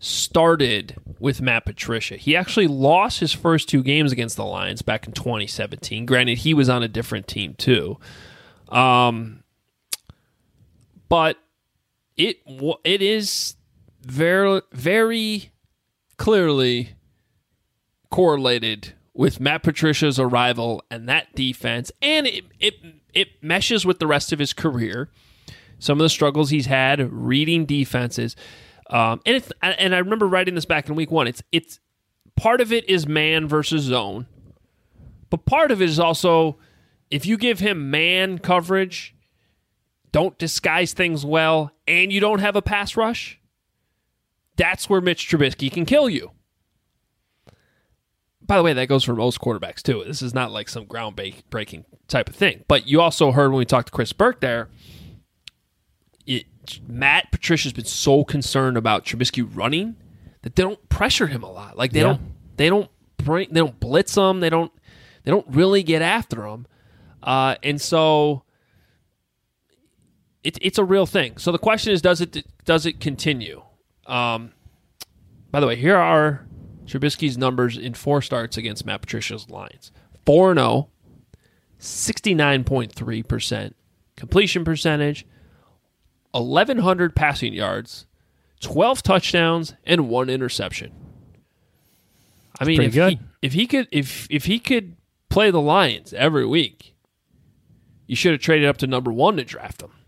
started with Matt Patricia. He actually lost his first two games against the Lions back in twenty seventeen. Granted, he was on a different team too. Um, but it it is very, very clearly correlated with Matt Patricia's arrival and that defense, and it, it it meshes with the rest of his career. Some of the struggles he's had reading defenses, um, and it's and I remember writing this back in week one. It's it's part of it is man versus zone, but part of it is also if you give him man coverage, don't disguise things well, and you don't have a pass rush, that's where Mitch Trubisky can kill you. By the way, that goes for most quarterbacks, too. This is not like some ground-breaking type of thing. But you also heard when we talked to Chris Burke there, it, Matt Patricia's been so concerned about Trubisky running that they don't pressure him a lot. Like they Yeah. don't, they don't bring, they don't blitz him. They don't, they don't really get after him. Uh, and so it, it's a real thing. So the question is, does it does it continue? Um, by the way, here are Trubisky's numbers in four starts against Matt Patricia's Lions. four and oh, sixty-nine point three percent completion percentage, eleven hundred passing yards, twelve touchdowns, and one interception. I mean, pretty if good. he, if he could if if he could play the Lions every week, you should have traded up to number one to draft him.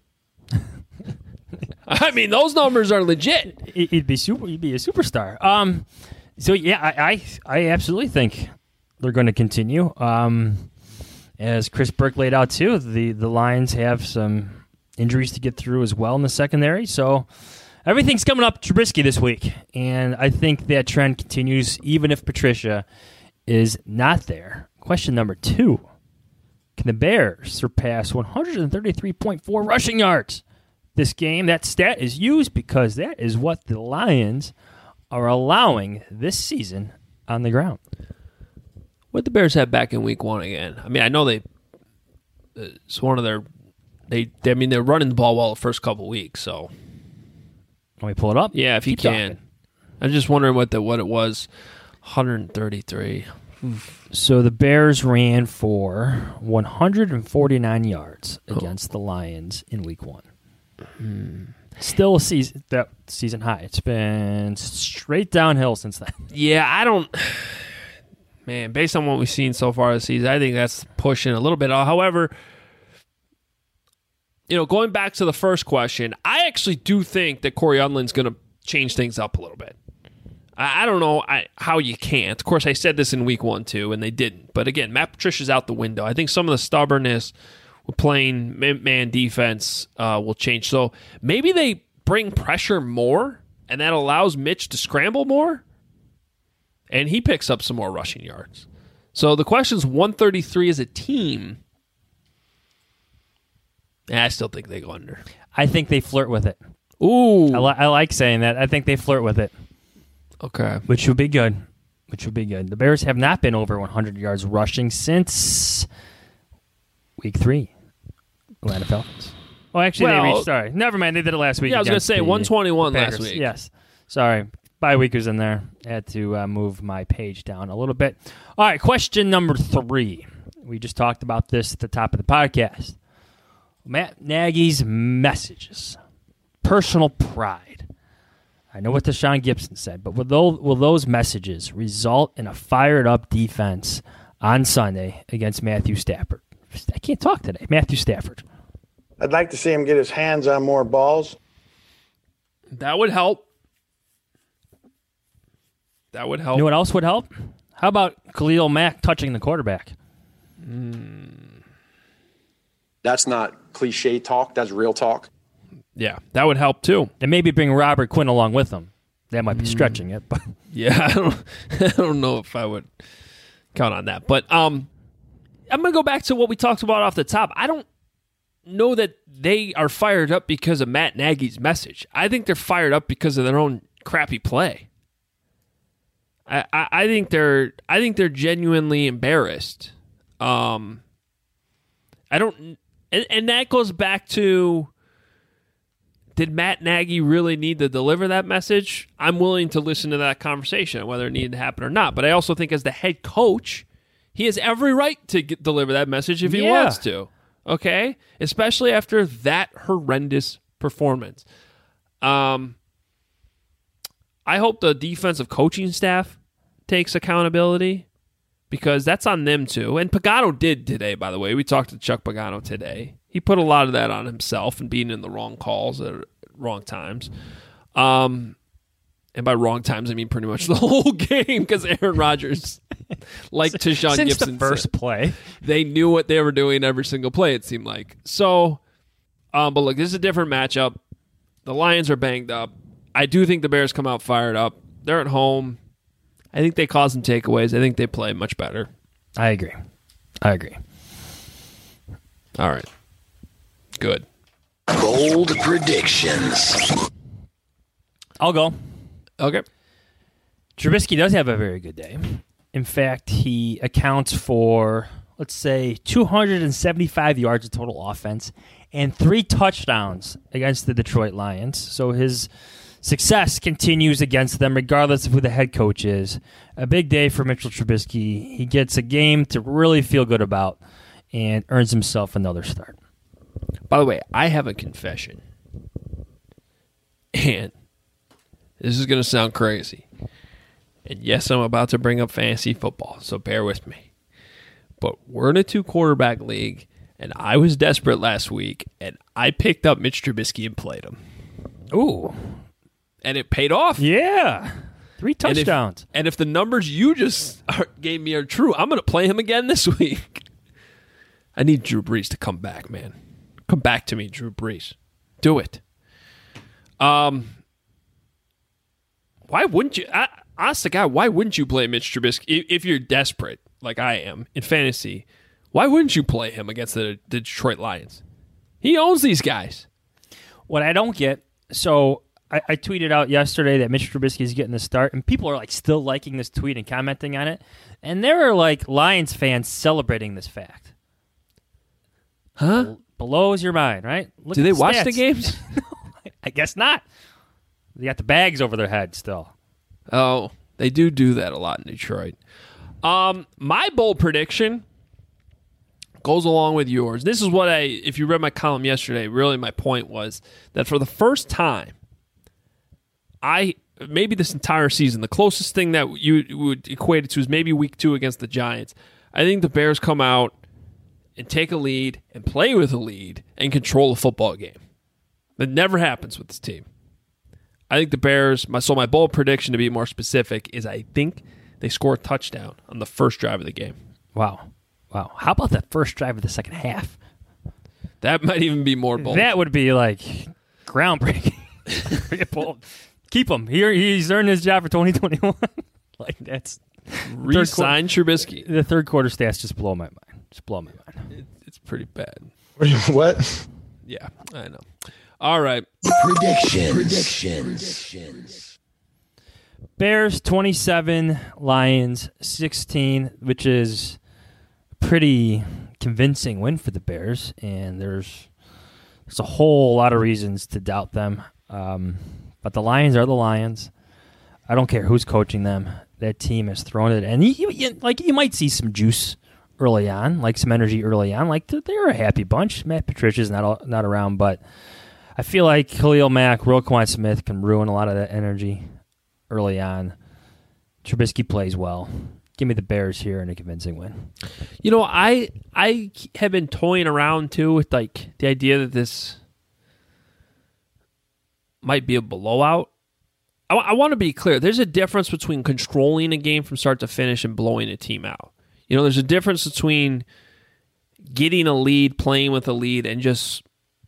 I mean, those numbers are legit. He'd be super. He'd be a superstar. Um, so yeah, I, I, I absolutely think they're going to continue. Um, as Chris Burke laid out too, the the Lions have some injuries to get through as well in the secondary. So everything's coming up Trubisky this week, and I think that trend continues even if Patricia is not there. Question number two: can the Bears surpass one hundred thirty-three point four rushing yards this game? That stat is used because that is what the Lions are allowing this season on the ground. What the Bears have back in week one again? I mean, I know they. It's one of their. They. they I mean, they're running the ball well the first couple weeks. So. Can we pull it up? Yeah, if you Keep can. talking. I'm just wondering what the what it was. one hundred thirty-three. So the Bears ran for one hundred forty-nine yards against the Lions in week one. Hmm. Still a season that season high. It's been straight downhill since then. Yeah, I don't. Man, based on what we've seen so far this season, I think that's pushing a little bit. However, you know, going back to the first question, I actually do think that Corey Unlin's going to change things up a little bit. I, I don't know I, how you can't. Of course, I said this in week one too, and they didn't. But again, Matt Patricia's out the window. I think some of the stubbornness with playing man defense uh, will change. So maybe they bring pressure more, and that allows Mitch to scramble more, and he picks up some more rushing yards. So the question is one thirty-three as a team. Yeah, I still think they go under. I think they flirt with it. Ooh. I, li- I like saying that. I think they flirt with it, Okay. which would be good. Which would be good. The Bears have not been over one hundred yards rushing since week three. Atlanta Falcons. Oh, actually, Well- they reached. Sorry, never mind. They did it last week. Yeah, I was going to against say the one twenty-one last Packers. week. Yes. Sorry. Bye week was in there. I had to uh, move my page down a little bit. All right, question number three. We just talked about this at the top of the podcast. Matt Nagy's messages. Personal pride. I know what Deshaun Gibson said, but will those, will those messages result in a fired-up defense on Sunday against Matthew Stafford? I can't talk today. Matthew Stafford. I'd like to see him get his hands on more balls. That would help. That would help. You know what else would help? How about Khalil Mack touching the quarterback? That's not cliche talk. That's real talk. Yeah, that would help too. And maybe bring Robert Quinn along with him. That might be stretching it, but Yeah, I don't, I don't know if I would count on that. But um, I'm going to go back to what we talked about off the top. I don't know that they are fired up because of Matt Nagy's message. I think they're fired up because of their own crappy play. I, I, I think they're I think they're genuinely embarrassed. Um, I don't, and, and that goes back to did Matt Nagy really need to deliver that message? I'm willing to listen to that conversation, whether it needed to happen or not. But I also think as the head coach, he has every right to get, deliver that message if he Yeah. wants to. Okay? Especially after that horrendous performance. Um, I hope the defensive coaching staff takes accountability because that's on them too. And Pagano did today, by the way. We talked to Chuck Pagano today. He put a lot of that on himself and being in the wrong calls at wrong times. Um, and by wrong times, I mean pretty much the whole game because Aaron Rodgers, like Tashawn Since Gibson the first said, play, they knew what they were doing every single play, it seemed like. So, um, but look, this is a different matchup. The Lions are banged up. I do think the Bears come out fired up. They're at home. I think they cause some takeaways. I think they play much better. I agree. I agree. All right. Good. Bold predictions. I'll go. Okay. Trubisky does have a very good day. In fact, he accounts for, let's say, two hundred seventy-five yards of total offense and three touchdowns against the Detroit Lions. So his success continues against them, regardless of who the head coach is. A big day for Mitchell Trubisky. He gets a game to really feel good about and earns himself another start. By the way, I have a confession. And this is going to sound crazy. And yes, I'm about to bring up fantasy football, so bear with me. But we're in a two-quarterback league, and I was desperate last week, and I picked up Mitch Trubisky and played him. Ooh. And it paid off. Yeah. Three touchdowns. And if, and if the numbers you just are, gave me are true, I'm going to play him again this week. I need Drew Brees to come back, man. Come back to me, Drew Brees. Do it. Um, why wouldn't you? I, honest to God, why wouldn't you play Mitch Trubisky if, if you're desperate, like I am, in fantasy? Why wouldn't you play him against the, the Detroit Lions? He owns these guys. What I don't get, so I, I tweeted out yesterday that Mitch Trubisky is getting the start, and people are like still liking this tweet and commenting on it, and there are like Lions fans celebrating this fact. Huh? Blows your mind, right? Look Do at they the watch stats. the games? I guess not. They got the bags over their head still. Oh, they do do that a lot in Detroit. Um, my bold prediction goes along with yours. This is what I, if you read my column yesterday, really my point was that for the first time, I, maybe this entire season, the closest thing that you would equate it to is maybe week two against the Giants. I think the Bears come out and take a lead and play with a lead and control a football game. That never happens with this team. I think the Bears, my so my bold prediction to be more specific is I think they score a touchdown on the first drive of the game. Wow. Wow. How about that first drive of the second half? That might even be more bold. That would be like groundbreaking. bold. Keep him. Here he's earned his job for twenty twenty-one. Like that's re-sign Trubisky. The third quarter stats just blow my mind. Just blow my mind. It, it's pretty bad. What? Yeah, I know. All right. Predictions. Predictions. Bears twenty-seven, Lions sixteen, which is a pretty convincing win for the Bears, and there's there's a whole lot of reasons to doubt them. Um, but the Lions are the Lions. I don't care who's coaching them. That team has thrown it, and you, you, like you might see some juice early on, like some energy early on. Like they're a happy bunch. Matt Patricia's not not around, but I feel like Khalil Mack, Roquan Smith can ruin a lot of that energy early on. Trubisky plays well. Give me the Bears here in a convincing win. You know, I I have been toying around too with like the idea that this might be a blowout. I, I want to be clear. There's a difference between controlling a game from start to finish and blowing a team out. You know, there's a difference between getting a lead, playing with a lead, and just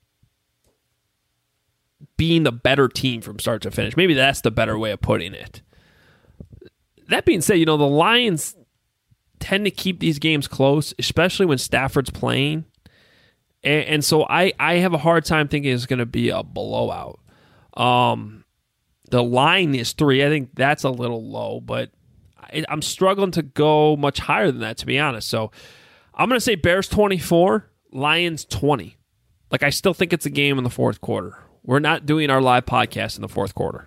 being the better team from start to finish. Maybe that's the better way of putting it. That being said, you know, the Lions tend to keep these games close, especially when Stafford's playing. And, and so I, I have a hard time thinking it's going to be a blowout. Um, the line is three. I think that's a little low, but I, I'm struggling to go much higher than that, to be honest. So I'm going to say Bears twenty-four, Lions twenty. Like, I still think it's a game in the fourth quarter. We're not doing our live podcast in the fourth quarter.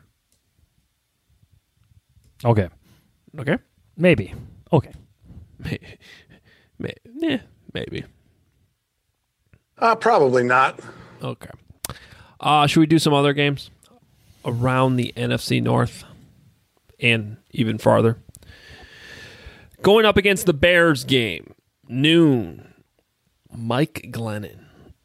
Okay. Okay. Maybe. Okay. Maybe. Maybe. Yeah, maybe. Uh, probably not. Okay. Uh, should we do some other games around the N F C North and even farther? Going up against the Bears game, noon, Mike Glennon.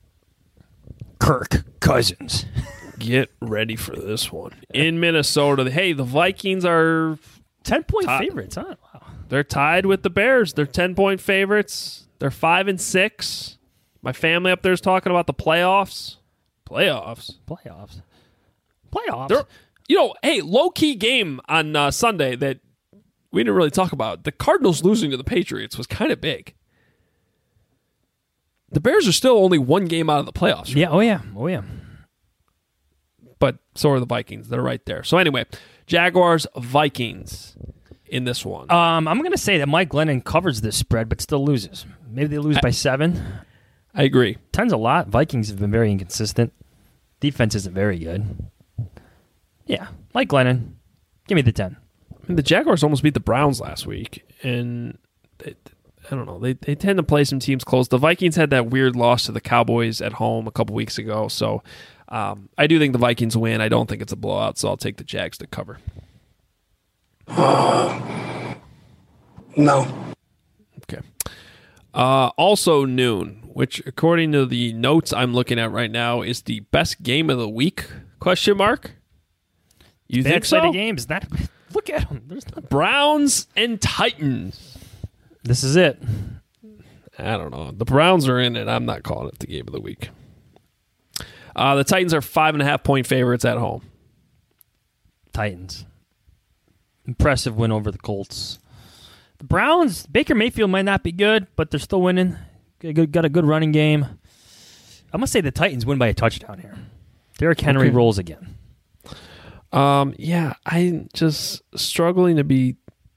Kirk Cousins. Get ready for this one. In Minnesota, hey, the Vikings are ten-point tied. favorites, huh? Wow. They're tied with the Bears. They're ten-point favorites. They're five and six. My family up there is talking about the playoffs. Playoffs. Playoffs. Playoffs. They're, you know, hey, low-key game on uh, Sunday that we didn't really talk about. The Cardinals losing to the Patriots was kind of big. The Bears are still only one game out of the playoffs. Right? Yeah, oh yeah, oh yeah. But so are the Vikings. They're right there. So anyway, Jaguars, Vikings in this one. Um, I'm going to say that Mike Glennon covers this spread, but still loses. Maybe they lose I, by seven. I agree. Ten's a lot. Vikings have been very inconsistent. Defense isn't very good. Yeah, Mike Glennon, give me the ten. I mean, the Jaguars almost beat the Browns last week, and they, I don't know. They they tend to play some teams close. The Vikings had that weird loss to the Cowboys at home a couple weeks ago, so um, I do think the Vikings win. I don't think it's a blowout, so I'll take the Jags to cover. Uh, no. Okay. Uh, also noon, which according to the notes I'm looking at right now is the best game of the week? Question mark. You Bad think so? Slate of games. That look at them. There's not... Browns and Titans. This is it. I don't know. The Browns are in it. I'm not calling it the game of the week. Uh, the Titans are five and a half point favorites at home. Titans. Impressive win over the Colts. The Browns, Baker Mayfield might not be good, but they're still winning. Got a good, got a good running game. I'm going to say the Titans win by a touchdown here. Derrick Henry okay. rolls again. Um, yeah, I'm just struggling to be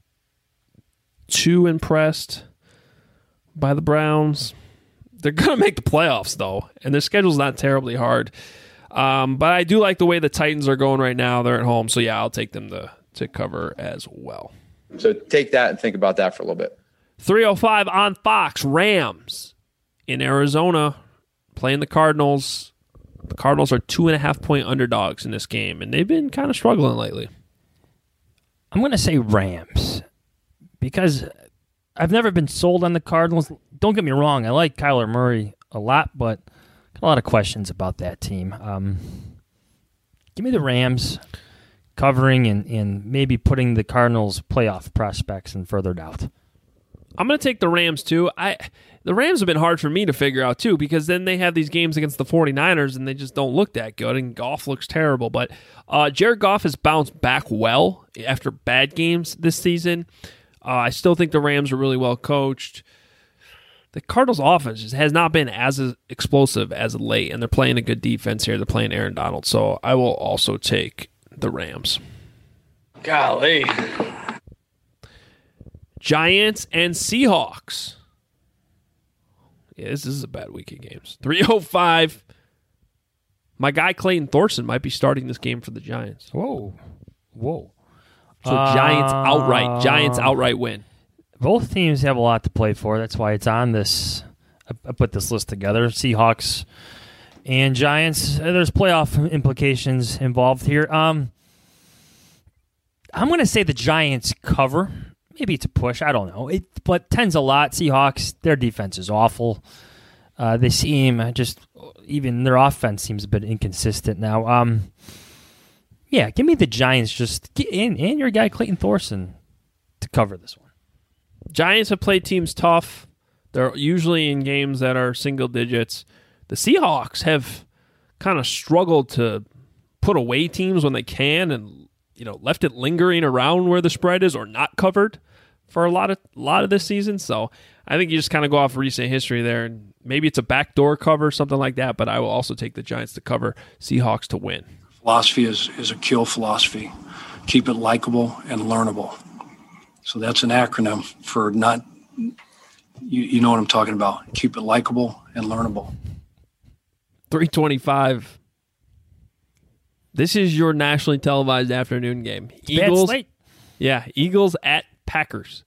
too impressed by the Browns. They're going to make the playoffs, though, and their schedule's not terribly hard. Um, but I do like the way the Titans are going right now. They're at home, so yeah, I'll take them to, to cover as well. So take that and think about that for a little bit. three oh five on Fox, Rams in Arizona playing the Cardinals. The Cardinals are two and a half point underdogs in this game, and they've been kind of struggling lately. I'm going to say Rams because I've never been sold on the Cardinals. Don't get me wrong. I like Kyler Murray a lot, but got a lot of questions about that team. Um, give me the Rams covering and, and maybe putting the Cardinals' playoff prospects in further doubt. I'm going to take the Rams, too. I The Rams have been hard for me to figure out, too, because then they have these games against the 49ers, and they just don't look that good, and Goff looks terrible. But uh, Jared Goff has bounced back well after bad games this season. Uh, I still think the Rams are really well coached. The Cardinals' offense just has not been as explosive as of late, and they're playing a good defense here. They're playing Aaron Donald, so I will also take the Rams. Golly. Giants and Seahawks. Yeah, this is a bad week of games. three oh five. My guy Clayton Thorson might be starting this game for the Giants. Whoa. Whoa. So Giants outright. Giants outright win. Both teams have a lot to play for. That's why it's on this. I put this list together. Seahawks and Giants. There's playoff implications involved here. Um, I'm going to say the Giants cover. Maybe it's a push. I don't know. It, but ten's a lot. Seahawks, their defense is awful. Uh, they seem just, even their offense seems a bit inconsistent now. Um, yeah, give me the Giants just get in, and your guy Clayton Thorson to cover this one. Giants have played teams tough. They're usually in games that are single digits. The Seahawks have kind of struggled to put away teams when they can, and you know, left it lingering around where the spread is or not covered for a lot of a lot of this season. So I think you just kind of go off recent history there, and maybe it's a backdoor cover, something like that. But I will also take the Giants to cover, Seahawks to win. Philosophy is is a kill philosophy. Keep it likable and learnable. So that's an acronym for not. You, you know what I'm talking about. Keep it likable and learnable. three twenty-five This is your nationally televised afternoon game. It's Eagles, bad slate. Yeah, Eagles at Packers.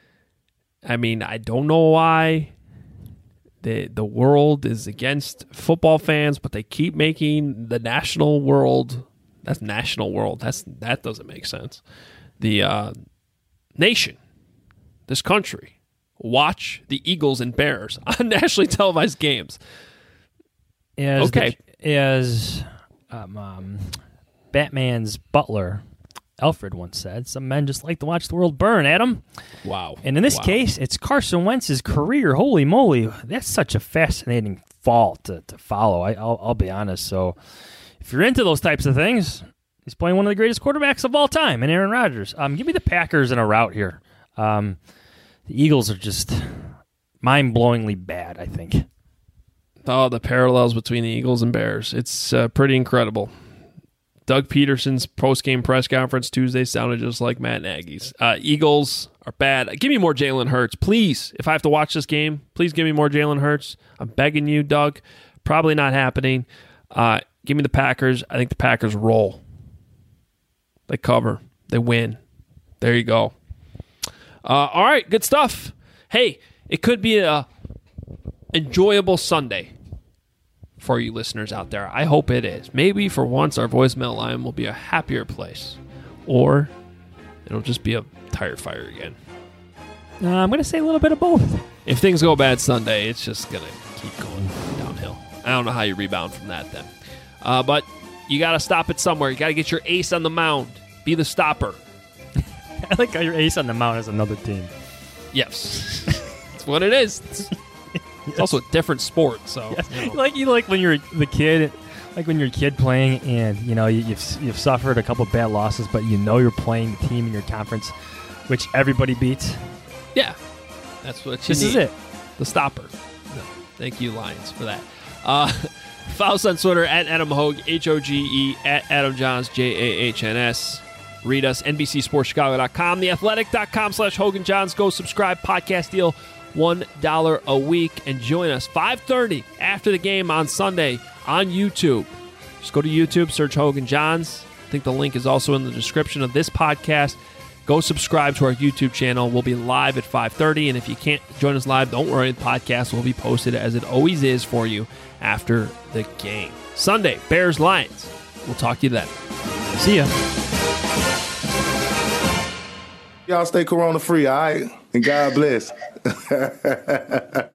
I mean, I don't know why the the world is against football fans, but they keep making the national world. That's national world. That's that doesn't make sense. The uh, nation, this country, watch the Eagles and Bears on nationally televised games. As okay, the, as um, um, Batman's butler Alfred once said, some men just like to watch the world burn, Adam. Wow. And in this wow. case, it's Carson Wentz's career. Holy moly. That's such a fascinating fall to, to follow. I, I'll, I'll be honest. So if you're into those types of things, he's playing one of the greatest quarterbacks of all time, and Aaron Rodgers. Um, give me the Packers in a rout here. Um, the Eagles are just mind-blowingly bad, I think. Oh, the parallels between the Eagles and Bears. It's uh, pretty incredible. Doug Peterson's post-game press conference Tuesday sounded just like Matt Nagy's. Uh, Eagles are bad. Give me more Jalen Hurts. Please, if I have to watch this game, please give me more Jalen Hurts. I'm begging you, Doug. Probably not happening. Uh, give me the Packers. I think the Packers roll. They cover. They win. There you go. Uh, all right, good stuff. Hey, it could be a enjoyable Sunday for you listeners out there. I hope it is. Maybe for once our voicemail line will be a happier place. Or it'll just be a tire fire again. Uh, I'm going to say a little bit of both. If things go bad Sunday, it's just going to keep going downhill. I don't know how you rebound from that then. Uh, but you got to stop it somewhere. You got to get your ace on the mound. Be the stopper. I like how your ace on the mound is another team. Yes. That's what it is. It's, it's also a different sport. So yes. you know. Like you like when you're the kid, like when you're a kid playing and you know you, you've you've suffered a couple bad losses, but you know you're playing the team in your conference, which everybody beats. Yeah, that's what you this need. is it. The stopper. No, thank you, Lions, for that. Uh, follow us on Twitter at Adam Hogue, H O G E, at Adam Johns, J A H N S. Read us, N B C Sports Chicago dot com, theathletic.com slash Hogan Johns. Go subscribe. Podcast deal, one dollar a week. And join us five thirty after the game on Sunday on YouTube. Just go to YouTube, search Hogan Johns. I think the link is also in the description of this podcast. Go subscribe to our YouTube channel. We'll be live at five thirty. And if you can't join us live, don't worry. The podcast will be posted as it always is for you after the game. Sunday, Bears Lions. We'll talk to you then. See ya. Y'all stay corona free, all right? And God bless.